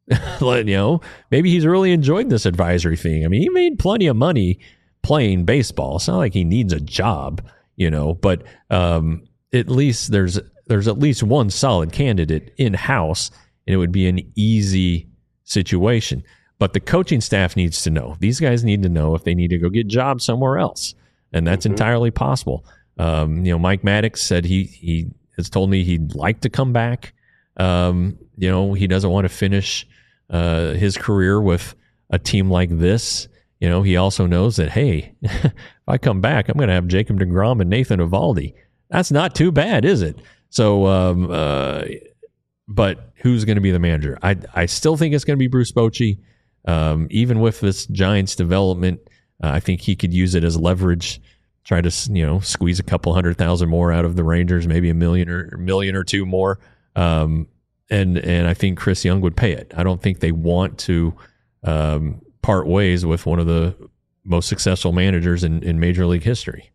you know, maybe he's really enjoyed this advisory thing. I mean, he made plenty of money playing baseball. It's not like he needs a job, you know. But um, at least there's there's at least one solid candidate in house. And it would be an easy situation. But the coaching staff needs to know. These guys need to know if they need to go get jobs somewhere else. And that's mm-hmm. entirely possible. Um, you know, Mike Maddox said he he has told me he'd like to come back. Um, you know, he doesn't want to finish uh, his career with a team like this. You know, he also knows that, hey, if I come back, I'm going to have Jacob deGrom and Nathan Eovaldi. That's not too bad, is it? So, um, uh, but who's going to be the manager? I I still think it's going to be Bruce Bochy. Um, even with this Giants development, uh, I think he could use it as leverage, try to, you know, squeeze a couple hundred thousand more out of the Rangers, maybe a million or a million or two more. Um, and and I think Chris Young would pay it. I don't think they want to um, part ways with one of the most successful managers in, in Major League history.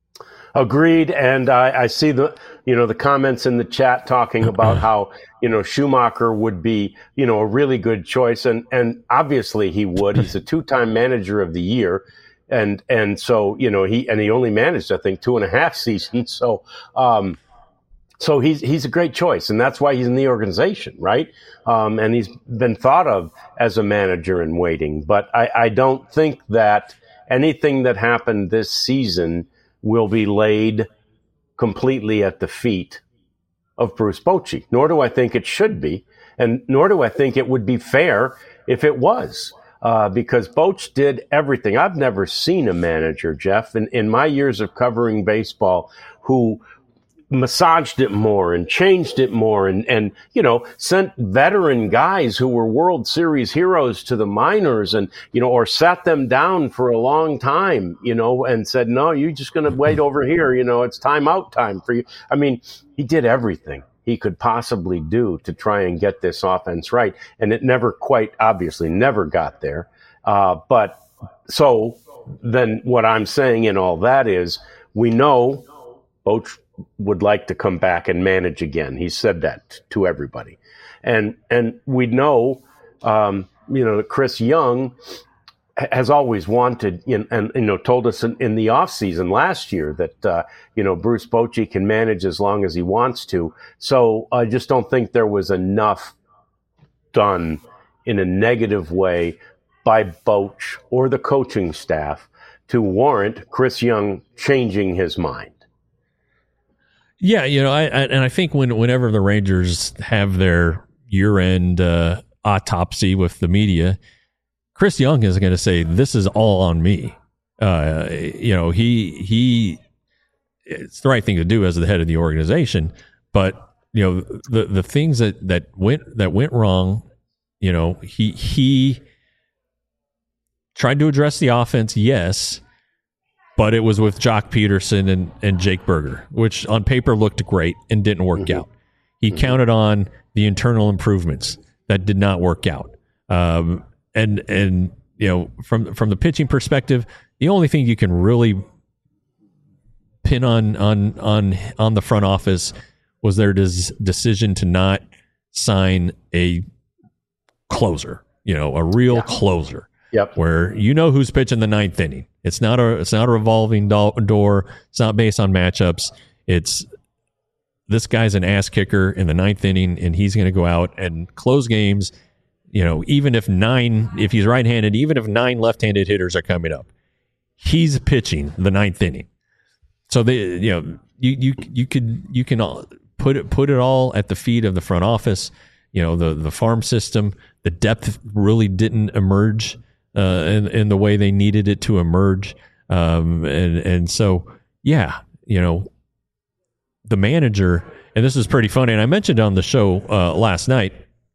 Agreed. And I, I see the, you know, the comments in the chat talking about how, you know, Schumacher would be, you know, a really good choice. And, and obviously he would. He's a two-time manager of the year. And, and so, you know, he, and he only managed, I think, two and a half seasons. So, um, so he's, he's a great choice. And that's why he's in the organization, right? Um, and he's been thought of as a manager in waiting. But I, I don't think that anything that happened this season will be laid completely at the feet of Bruce Bochy, nor do I think it should be, and nor do I think it would be fair if it was, uh, because Boch did everything. I've never seen a manager, Jeff, in, in my years of covering baseball, who massaged it more and changed it more and, and, you know, sent veteran guys who were World Series heroes to the minors and, you know, or sat them down for a long time, you know, and said, no, you're just going to wait over here. You know, it's timeout time for you. I mean, he did everything he could possibly do to try and get this offense right. And it never quite, obviously never got there. Uh, but so then what I'm saying in all that is we know Boch would like to come back and manage again. He said that to everybody. And and we know, um, you know, that Chris Young has always wanted, you know, and, you know, told us in, in the offseason last year that, uh, you know, Bruce Bochy can manage as long as he wants to. So I just don't think there was enough done in a negative way by Boch or the coaching staff to warrant Chris Young changing his mind. Yeah, you know, I, I and I think when whenever the Rangers have their year-end uh, autopsy with the media, Chris Young is going to say, "This is all on me." Uh, you know, he he, it's the right thing to do as the head of the organization, but you know, the the things that that went that went wrong, you know, he he tried to address the offense, yes. But it was with Jock Peterson and, and Jake Berger, which on paper looked great and didn't work mm-hmm. out. He mm-hmm. counted on the internal improvements that did not work out. Um, and and you know, from from the pitching perspective, the only thing you can really pin on on on on the front office was their des- decision to not sign a closer, you know, a real yeah. closer. Yep. Where you know who's pitching the ninth inning. It's not a it's not a revolving do- door. It's not based on matchups. It's this guy's an ass kicker in the ninth inning, and he's going to go out and close games. You know, even if nine, if he's right-handed, even if nine left-handed hitters are coming up, he's pitching the ninth inning. So they, you know, you you you could you can all put it put it all at the feet of the front office. You know, the the farm system, the depth really didn't emerge. Uh, in, in the way they needed it to emerge. Um, and, and so, yeah, you know, the manager, and this is pretty funny, and I mentioned on the show uh, last night,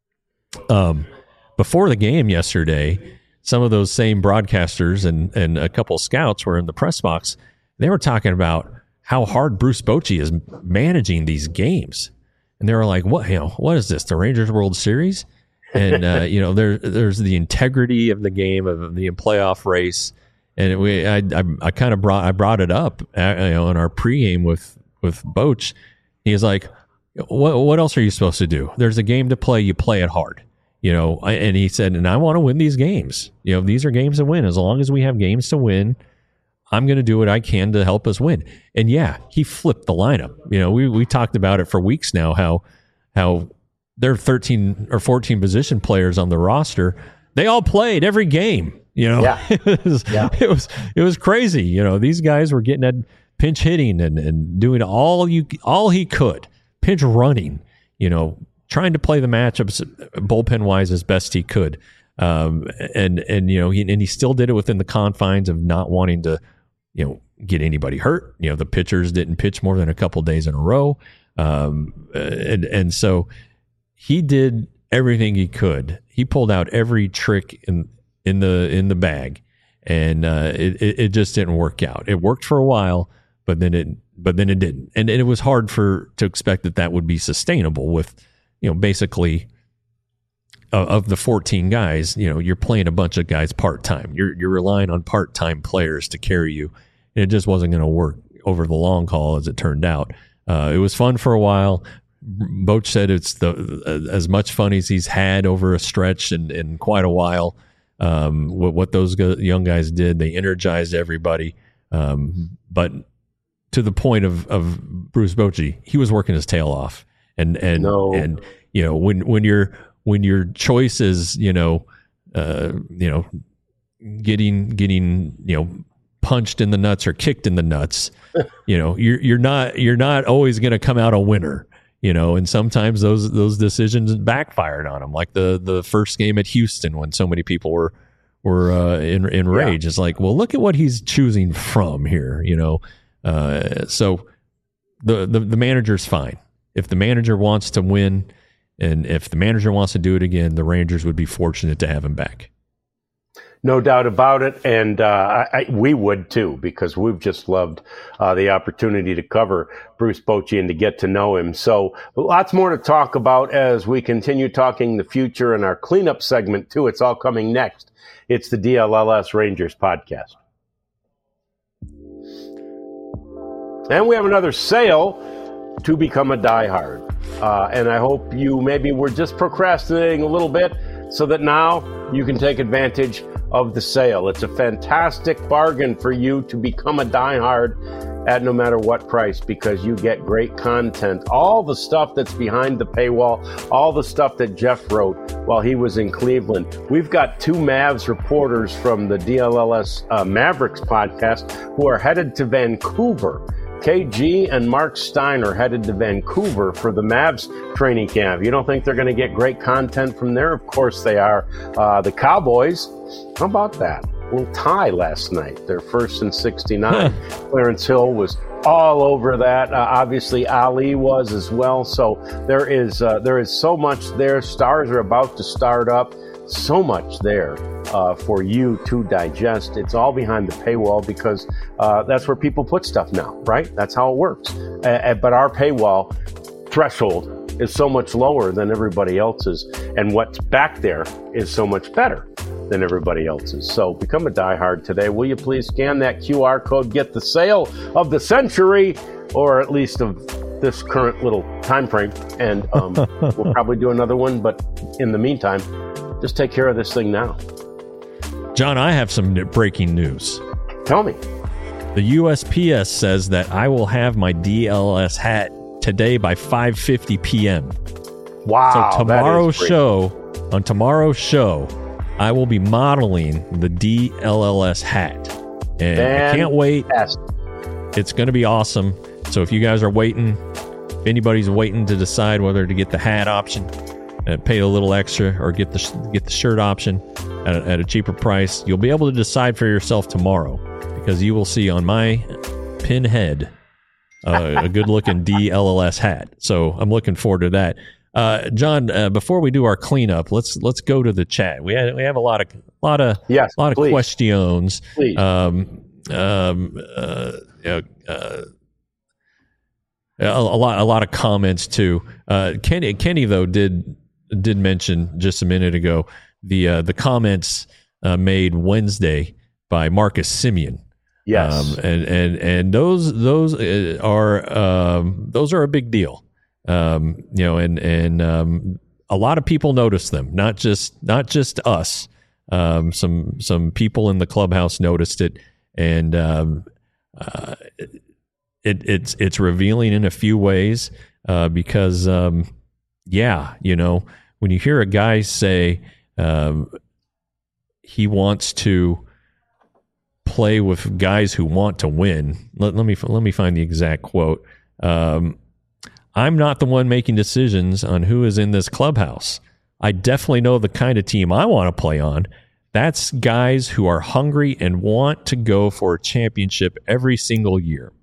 um, before the game yesterday, some of those same broadcasters and, and a couple scouts were in the press box. They were talking about how hard Bruce Bochy is managing these games. And they were like, what, you know, what is this, the Rangers World Series? And, uh, you know, there, there's the integrity of the game, of the playoff race. And we, I, I, I kind of brought, I brought it up, uh, you know, in our pregame with, with Boch. He's like, what, what else are you supposed to do? There's a game to play. You play it hard, you know? And he said, and I want to win these games. You know, these are games to win. As long as we have games to win, I'm going to do what I can to help us win. And yeah, he flipped the lineup. You know, we, we talked about it for weeks now, how, how, there are thirteen or fourteen position players on the roster. They all played every game. You know, yeah. it was yeah. it was it was crazy. You know, these guys were getting at pinch hitting and, and doing all you all he could, pinch running. You know, trying to play the matchups bullpen wise as best he could. Um, and and you know, he and he still did it within the confines of not wanting to, you know, get anybody hurt. You know, the pitchers didn't pitch more than a couple days in a row. Um, and and so. He did everything he could. He pulled out every trick in in the in the bag, and uh, it, it it just didn't work out. It worked for a while, but then it but then it didn't, and, and it was hard for to expect that that would be sustainable. With you know basically uh, of the fourteen guys, you know you're playing a bunch of guys part time. You're you're relying on part time players to carry you, and it just wasn't going to work over the long haul as it turned out. Uh, it was fun for a while. Boch said it's the as much fun as he's had over a stretch in, in quite a while. Um, what, what those go, young guys did, they energized everybody. Um, but to the point of, of Bruce Bochy, he was working his tail off. And and no. and you know when when your when your choice is you know uh, you know getting getting you know punched in the nuts or kicked in the nuts, you know you're you're not you're not always going to come out a winner. You know, and sometimes those those decisions backfired on him, like the the first game at Houston when so many people were were uh, in in rage. Yeah. It's like, well, look at what he's choosing from here. You know, uh, so the, the, the manager's fine. If the manager wants to win and if the manager wants to do it again, the Rangers would be fortunate to have him back. No doubt about it, and uh, I, we would too, because we've just loved uh, the opportunity to cover Bruce Bochy and to get to know him. So lots more to talk about as we continue talking the future in our cleanup segment too. It's all coming next. It's the D L L S Rangers podcast. And we have another sale to become a diehard. Uh, and I hope you maybe were just procrastinating a little bit so that now you can take advantage of the sale. It's a fantastic bargain for you to become a diehard at no matter what price, because you get great content, all the stuff that's behind the paywall, all the stuff that Jeff wrote while he was in Cleveland. We've got two Mavs reporters from the D L L S uh, Mavericks podcast who are headed to Vancouver. K G and Mark Steiner headed to Vancouver for the Mavs training camp. You don't think they're going to get great content from there? Of course they are. Uh, the Cowboys, how about that? A little tie last night. They're first in sixty-nine. Clarence Hill was all over that. Uh, obviously, Ali was as well. So there is uh, there is so much there. Stars are about to start up. So much there uh, for you to digest. It's all behind the paywall because uh, that's where people put stuff now, right? That's how it works. Uh, but our paywall threshold is so much lower than everybody else's, and what's back there is so much better than everybody else's. So become a diehard today. Will you please scan that Q R code, get the sale of the century, or at least of this current little time frame, and um, we'll probably do another one. But in the meantime, just take care of this thing now. John, I have some breaking news. Tell me. The U S P S says that I will have my D L S hat today by five fifty p.m. Wow. So tomorrow's show, on tomorrow's show, I will be modeling the D L L S hat. And Fantastic. I can't wait. It's going to be awesome. So if you guys are waiting, if anybody's waiting to decide whether to get the hat option, Uh, pay a little extra, or get the get the shirt option at a, at a cheaper price, you'll be able to decide for yourself tomorrow, because you will see on my pinhead uh, a good-looking D L L S hat. So I'm looking forward to that. Uh, John, uh, before we do our cleanup, let's let's go to the chat. We have, we have a lot of lot of yes, lot of please. questions. Please. Um, um, uh, uh, uh, a, a lot a lot of comments too. Uh, Kenny Kenny though did. did mention just a minute ago the uh, the comments uh, made Wednesday by Marcus Semien. Yes, um, and and and those those are um, those are a big deal. Um, you know, and and um, a lot of people noticed them. Not just not just us. Um, some some people in the clubhouse noticed it, and um, uh, it it's it's revealing in a few ways uh, because um, yeah, you know. When you hear a guy say um, he wants to play with guys who want to win, let, let me let me find the exact quote. Um, I'm not the one making decisions on who is in this clubhouse. I definitely know the kind of team I want to play on. That's guys who are hungry and want to go for a championship every single year.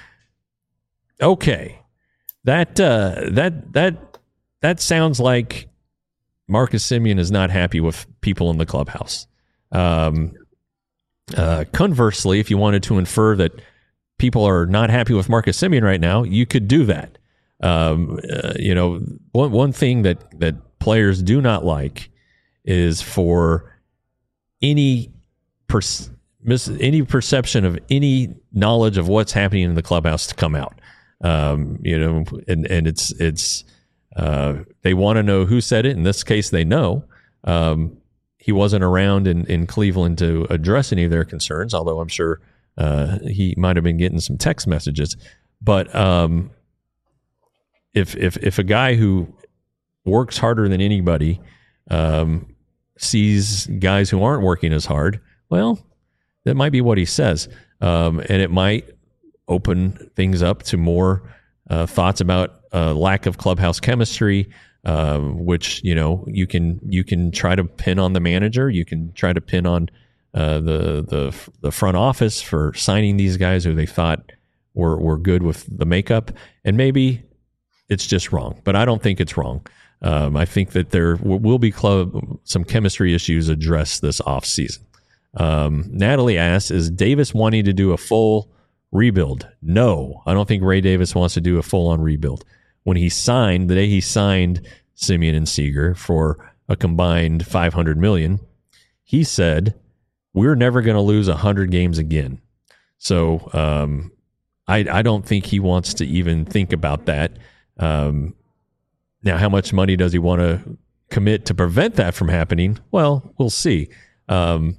Okay, that uh, that that that sounds like Marcus Semien is not happy with people in the clubhouse. Um, uh, conversely, if you wanted to infer that people are not happy with Marcus Semien right now, you could do that. Um, uh, you know, one one thing that that players do not like is for any per- mis- any perception of any knowledge of what's happening in the clubhouse to come out. Um, you know, and and it's it's. Uh, they want to know who said it. In this case, they know. Um, he wasn't around in, in Cleveland to address any of their concerns, although I'm sure uh, he might have been getting some text messages. But um, if if if a guy who works harder than anybody um, sees guys who aren't working as hard, well, that might be what he says, um, and it might open things up to more uh, thoughts about Uh, lack of clubhouse chemistry, uh, which you know you can you can try to pin on the manager, you can try to pin on uh, the the the front office for signing these guys who they thought were were good with the makeup, and maybe it's just wrong. But I don't think it's wrong. Um, I think that there will be club, some chemistry issues addressed this offseason. Um, Natalie asks, is Davis wanting to do a full rebuild? No, I don't think Ray Davis wants to do a full-on rebuild. When he signed, the day he signed Semien and Seager for a combined five hundred million dollars, he said, we're never going to lose one hundred games again. So um, I, I don't think he wants to even think about that. Um, now, how much money does he want to commit to prevent that from happening? Well, we'll see. Um,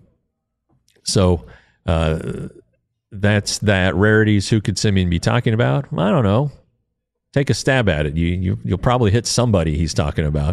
so uh, that's that. Rarities, who could Semien be talking about? I don't know. Take a stab at it. You, you, you'll probably hit somebody he's talking about.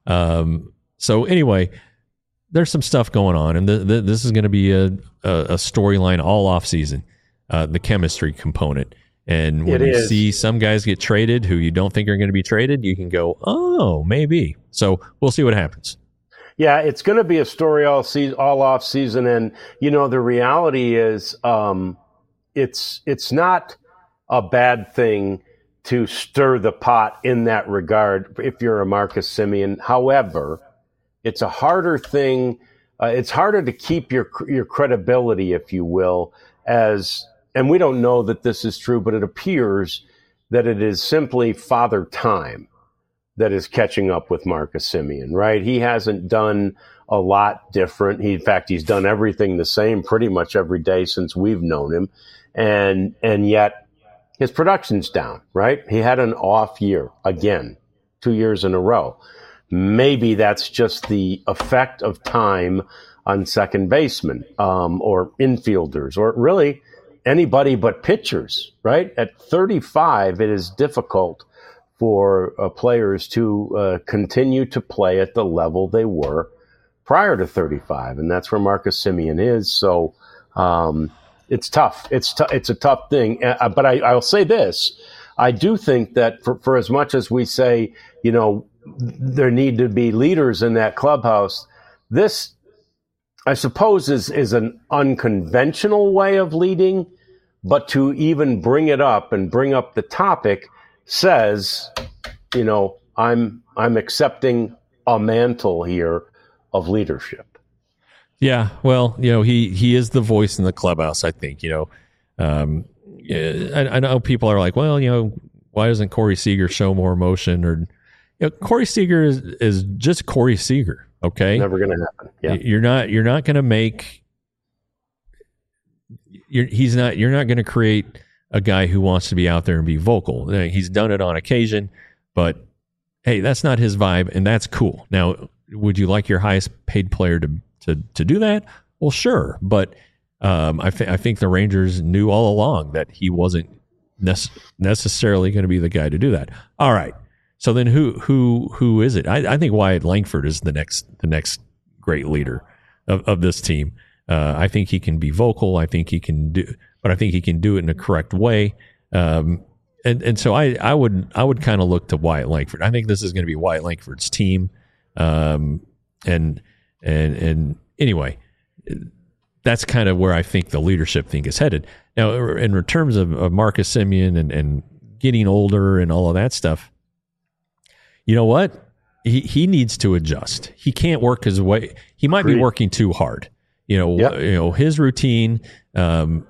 Um, so anyway, there's some stuff going on, and the, the, this is going to be a, a, a storyline all off season, uh, the chemistry component. And when It you is. see some guys get traded who you don't think are going to be traded, you can go, oh, maybe. So we'll see what happens. Yeah, it's going to be a story all season, all off season, and you know the reality is, um, it's it's not a bad thing to stir the pot in that regard if you're a Marcus Semien. However, it's a harder thing. Uh, it's harder to keep your your credibility, if you will, as and we don't know that this is true, but it appears that it is simply Father Time that is catching up with Marcus Semien, right? He hasn't done a lot different. He, in fact, he's done everything the same pretty much every day since we've known him. And and yet his production's down, right? He had an off year again, two years in a row. Maybe that's just the effect of time on second baseman um, or infielders or really anybody but pitchers, right? At thirty-five, it is difficult for uh, players to uh, continue to play at the level they were prior to thirty-five, and that's where Marcus Semien is. So um, it's tough. It's t- it's a tough thing. Uh, but I, I'll say this: I do think that for, for as much as we say, you know, there need to be leaders in that clubhouse, this, I suppose, is is an unconventional way of leading. But to even bring it up and bring up the topic says, you know, I'm I'm accepting a mantle here of leadership. Yeah, well, you know, he he is the voice in the clubhouse, I think. You know, um, I, I know people are like, well, you know, why doesn't Corey Seager show more emotion? Or, you know, Corey Seager is, is just Corey Seager. Okay, Never going to happen. Yeah, you're not you're not going to make. You're, he's not. You're not going to create a guy who wants to be out there and be vocal. He's done it on occasion, but hey, that's not his vibe, and that's cool. Now, would you like your highest paid player to to to do that? Well, sure, but um, I, th- I think the Rangers knew all along that he wasn't nece- necessarily going to be the guy to do that. All right, so then who who who is it? I, I think Wyatt Langford is the next the next great leader of, of this team. Uh, I think he can be vocal. I think he can do, but I think he can do it in a correct way. Um, and and so I, I would I would kind of look to Wyatt Langford. I think this is going to be Wyatt Langford's team. Um, and and and anyway, that's kind of where I think the leadership thing is headed. Now, in terms of, of Marcus Semien and, and getting older and all of that stuff, you know what? He he needs to adjust. He can't work his way. He might be working too hard. You know, yep. you know his routine um,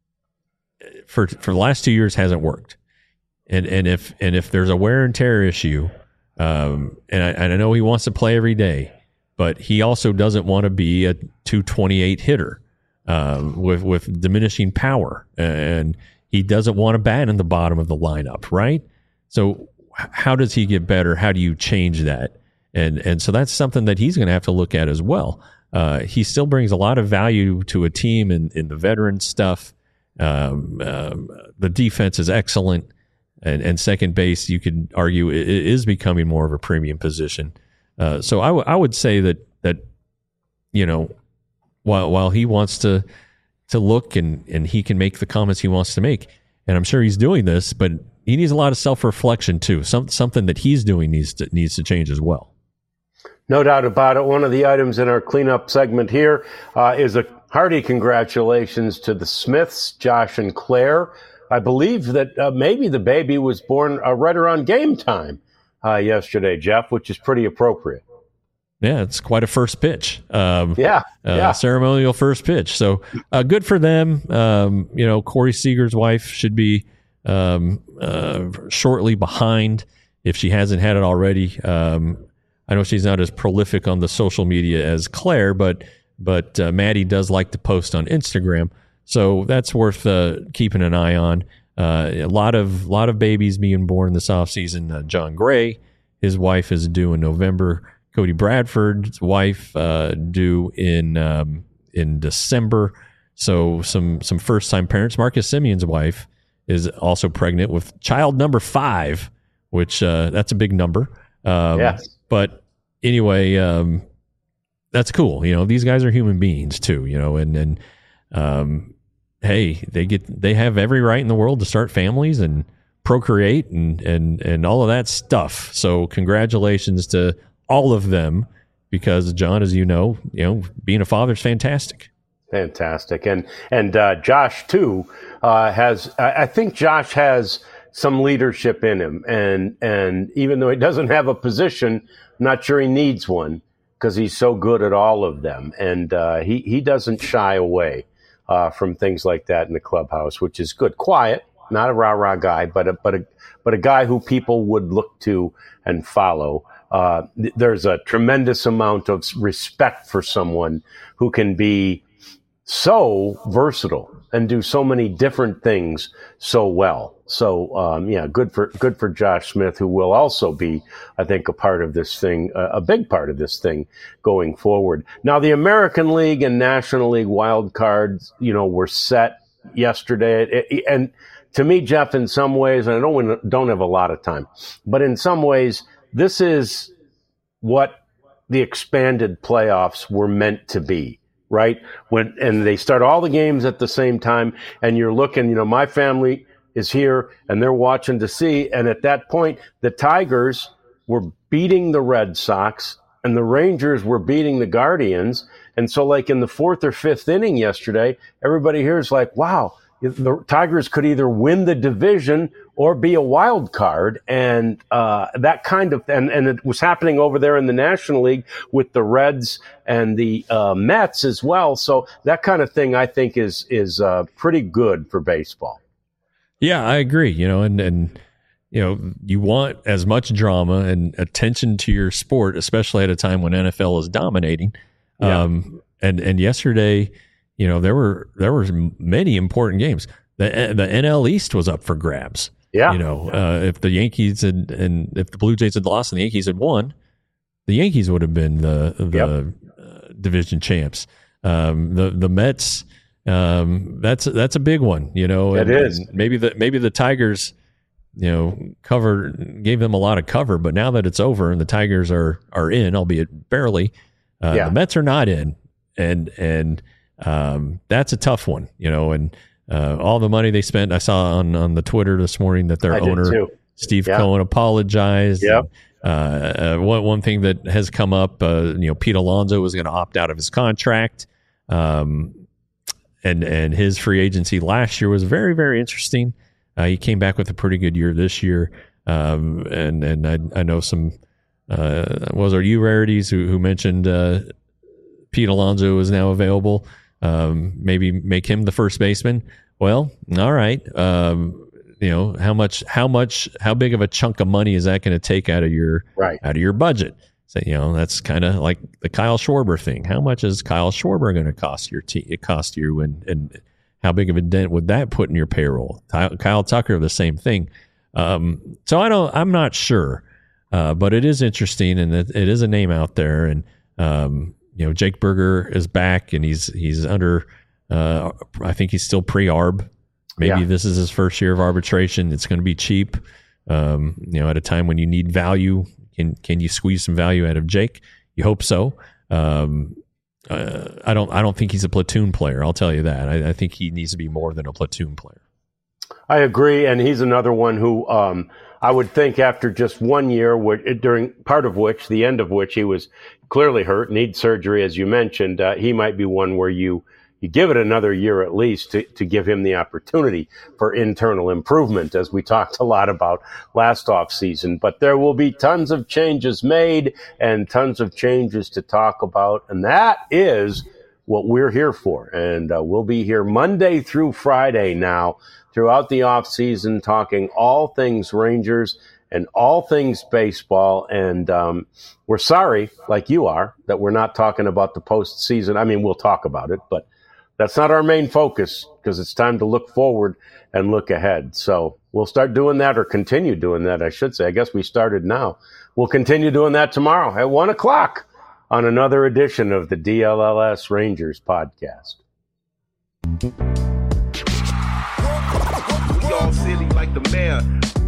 for for the last two years hasn't worked, and and if and if there's a wear and tear issue, um, and I, and I know he wants to play every day, but he also doesn't want to be a two twenty-eight hitter um, with with diminishing power, and he doesn't want to bat in the bottom of the lineup, right? So how does he get better? How do you change that? And and so that's something that he's going to have to look at as well. Uh, he still brings a lot of value to a team in, in the veteran stuff. Um, um, the defense is excellent, and, and second base, you could argue, it, it is becoming more of a premium position. Uh, so I, w- I would say that that you know, while while he wants to to look and and he can make the comments he wants to make, and I'm sure he's doing this, but he needs a lot of self reflection too. Some something that he's doing needs to needs to change as well. No doubt about it. One of the items in our cleanup segment here uh, is a hearty congratulations to the Smiths, Josh and Claire, I believe that uh, maybe the baby was born uh, right around game time uh, yesterday, Jeff, which is pretty appropriate. Yeah, it's quite a first pitch. Um, yeah, uh, yeah. Ceremonial first pitch. So uh, good for them. Um, you know, Corey Seager's wife should be um, uh, shortly behind if she hasn't had it already. Um, I know she's not as prolific on the social media as Claire, but but uh, Maddie does like to post on Instagram. So that's worth uh, keeping an eye on. Uh, a lot of lot of babies being born this offseason. Uh, John Gray, his wife is due in November. Cody Bradford's wife uh, due in um, in December. So some some first time parents. Marcus Simeon's wife is also pregnant with child number five, which uh, that's a big number. Um, yes. But anyway, um, that's cool. You know, these guys are human beings too. You know, and and um, hey, they get they have every right in the world to start families and procreate and and and all of that stuff. So congratulations to all of them, because John, as you know, you know, being a father is fantastic. Fantastic. And and uh, Josh, too, uh, has, I, I think Josh has some leadership in him. And, and even though he doesn't have a position, I'm not sure he needs one because he's so good at all of them. And uh, he, he doesn't shy away uh, from things like that in the clubhouse, which is good. Quiet, not a rah-rah guy, but a, but a, but a guy who people would look to and follow. Uh, th- there's a tremendous amount of respect for someone who can be so versatile and do so many different things so well. So, um, yeah, good for good for Josh Smith, who will also be, I think, a part of this thing, uh, a big part of this thing going forward. Now, the American League and National League wild cards, you know, were set yesterday, it, it, and to me, Jeff, in some ways, and I don't don't have a lot of time, but in some ways, this is what the expanded playoffs were meant to be, right? When and they start all the games at the same time, and you're looking, you know, my family is here, and they're watching to see, and at that point, the Tigers were beating the Red Sox, and the Rangers were beating the Guardians, and so like in the fourth or fifth inning yesterday, everybody here is like, wow, the Tigers could either win the division or be a wild card. And uh, that kind of, and, and it was happening over there in the National League with the Reds and the uh, Mets as well. So that kind of thing, I think, is is uh, pretty good for baseball. Yeah, I agree. You know, and, and, you know, you want as much drama and attention to your sport, especially at a time when N F L is dominating. Yeah. Um, and, and yesterday, you know, there were there were many important games. The the N L East was up for grabs. Yeah. You know, uh, if the Yankees had, and if the Blue Jays had lost and the Yankees had won, the Yankees would have been the the Yep. uh, division champs. Um, the the Mets, um, that's that's a big one. You know, It and, is. and maybe the maybe the Tigers, you know, cover gave them a lot of cover, but now that it's over and the Tigers are are in, albeit barely, uh, Yeah. the Mets are not in, and and um, that's a tough one. You know, and uh, all the money they spent, I saw on on the Twitter this morning that their I did owner too. Steve Yeah. Cohen apologized. Yep. Uh, uh, one one thing that has come up, uh, you know, Pete Alonso was going to opt out of his contract, um, and and his free agency last year was very very interesting. Uh, he came back with a pretty good year this year, um, and and I I know some uh, was our U Rarities who who mentioned uh, Pete Alonso is now available. Um, maybe make him the first baseman. Well, all right. Um, you know, how much, how much, how big of a chunk of money is that going to take out of your, Right. out of your budget? So, you know, that's kind of like the Kyle Schwarber thing. How much is Kyle Schwarber going to cost your team? It cost you, and and how big of a dent would that put in your payroll? Kyle, Kyle Tucker, the same thing. Um, so I don't, I'm not sure, uh, but it is interesting, and it, it is a name out there, and um, you know, Jake Berger is back, and he's he's under. Uh, I think he's still pre-arb. Maybe Yeah. this is his first year of arbitration. It's going to be cheap. Um, you know, at a time when you need value, can can you squeeze some value out of Jake? You hope so. Um, uh, I don't. I don't think he's a platoon player. I'll tell you that. I, I think he needs to be more than a platoon player. I agree, and he's another one who um, I would think after just one year, wh- during part of which, the end of which, he was clearly hurt, needs surgery, as you mentioned. Uh, he might be one where you you give it another year at least to, to give him the opportunity for internal improvement, as we talked a lot about last offseason. But there will be tons of changes made and tons of changes to talk about. And that is what we're here for. And uh, we'll be here Monday through Friday now throughout the offseason, talking all things Rangers and all things baseball. And um, we're sorry, like you are, that we're not talking about the postseason. I mean, we'll talk about it, but that's not our main focus, because it's time to look forward and look ahead. So we'll start doing that, or continue doing that, I should say. I guess we started now. We'll continue doing that tomorrow at one o'clock on another edition of the D L L S Rangers podcast. We all silly like the mayor.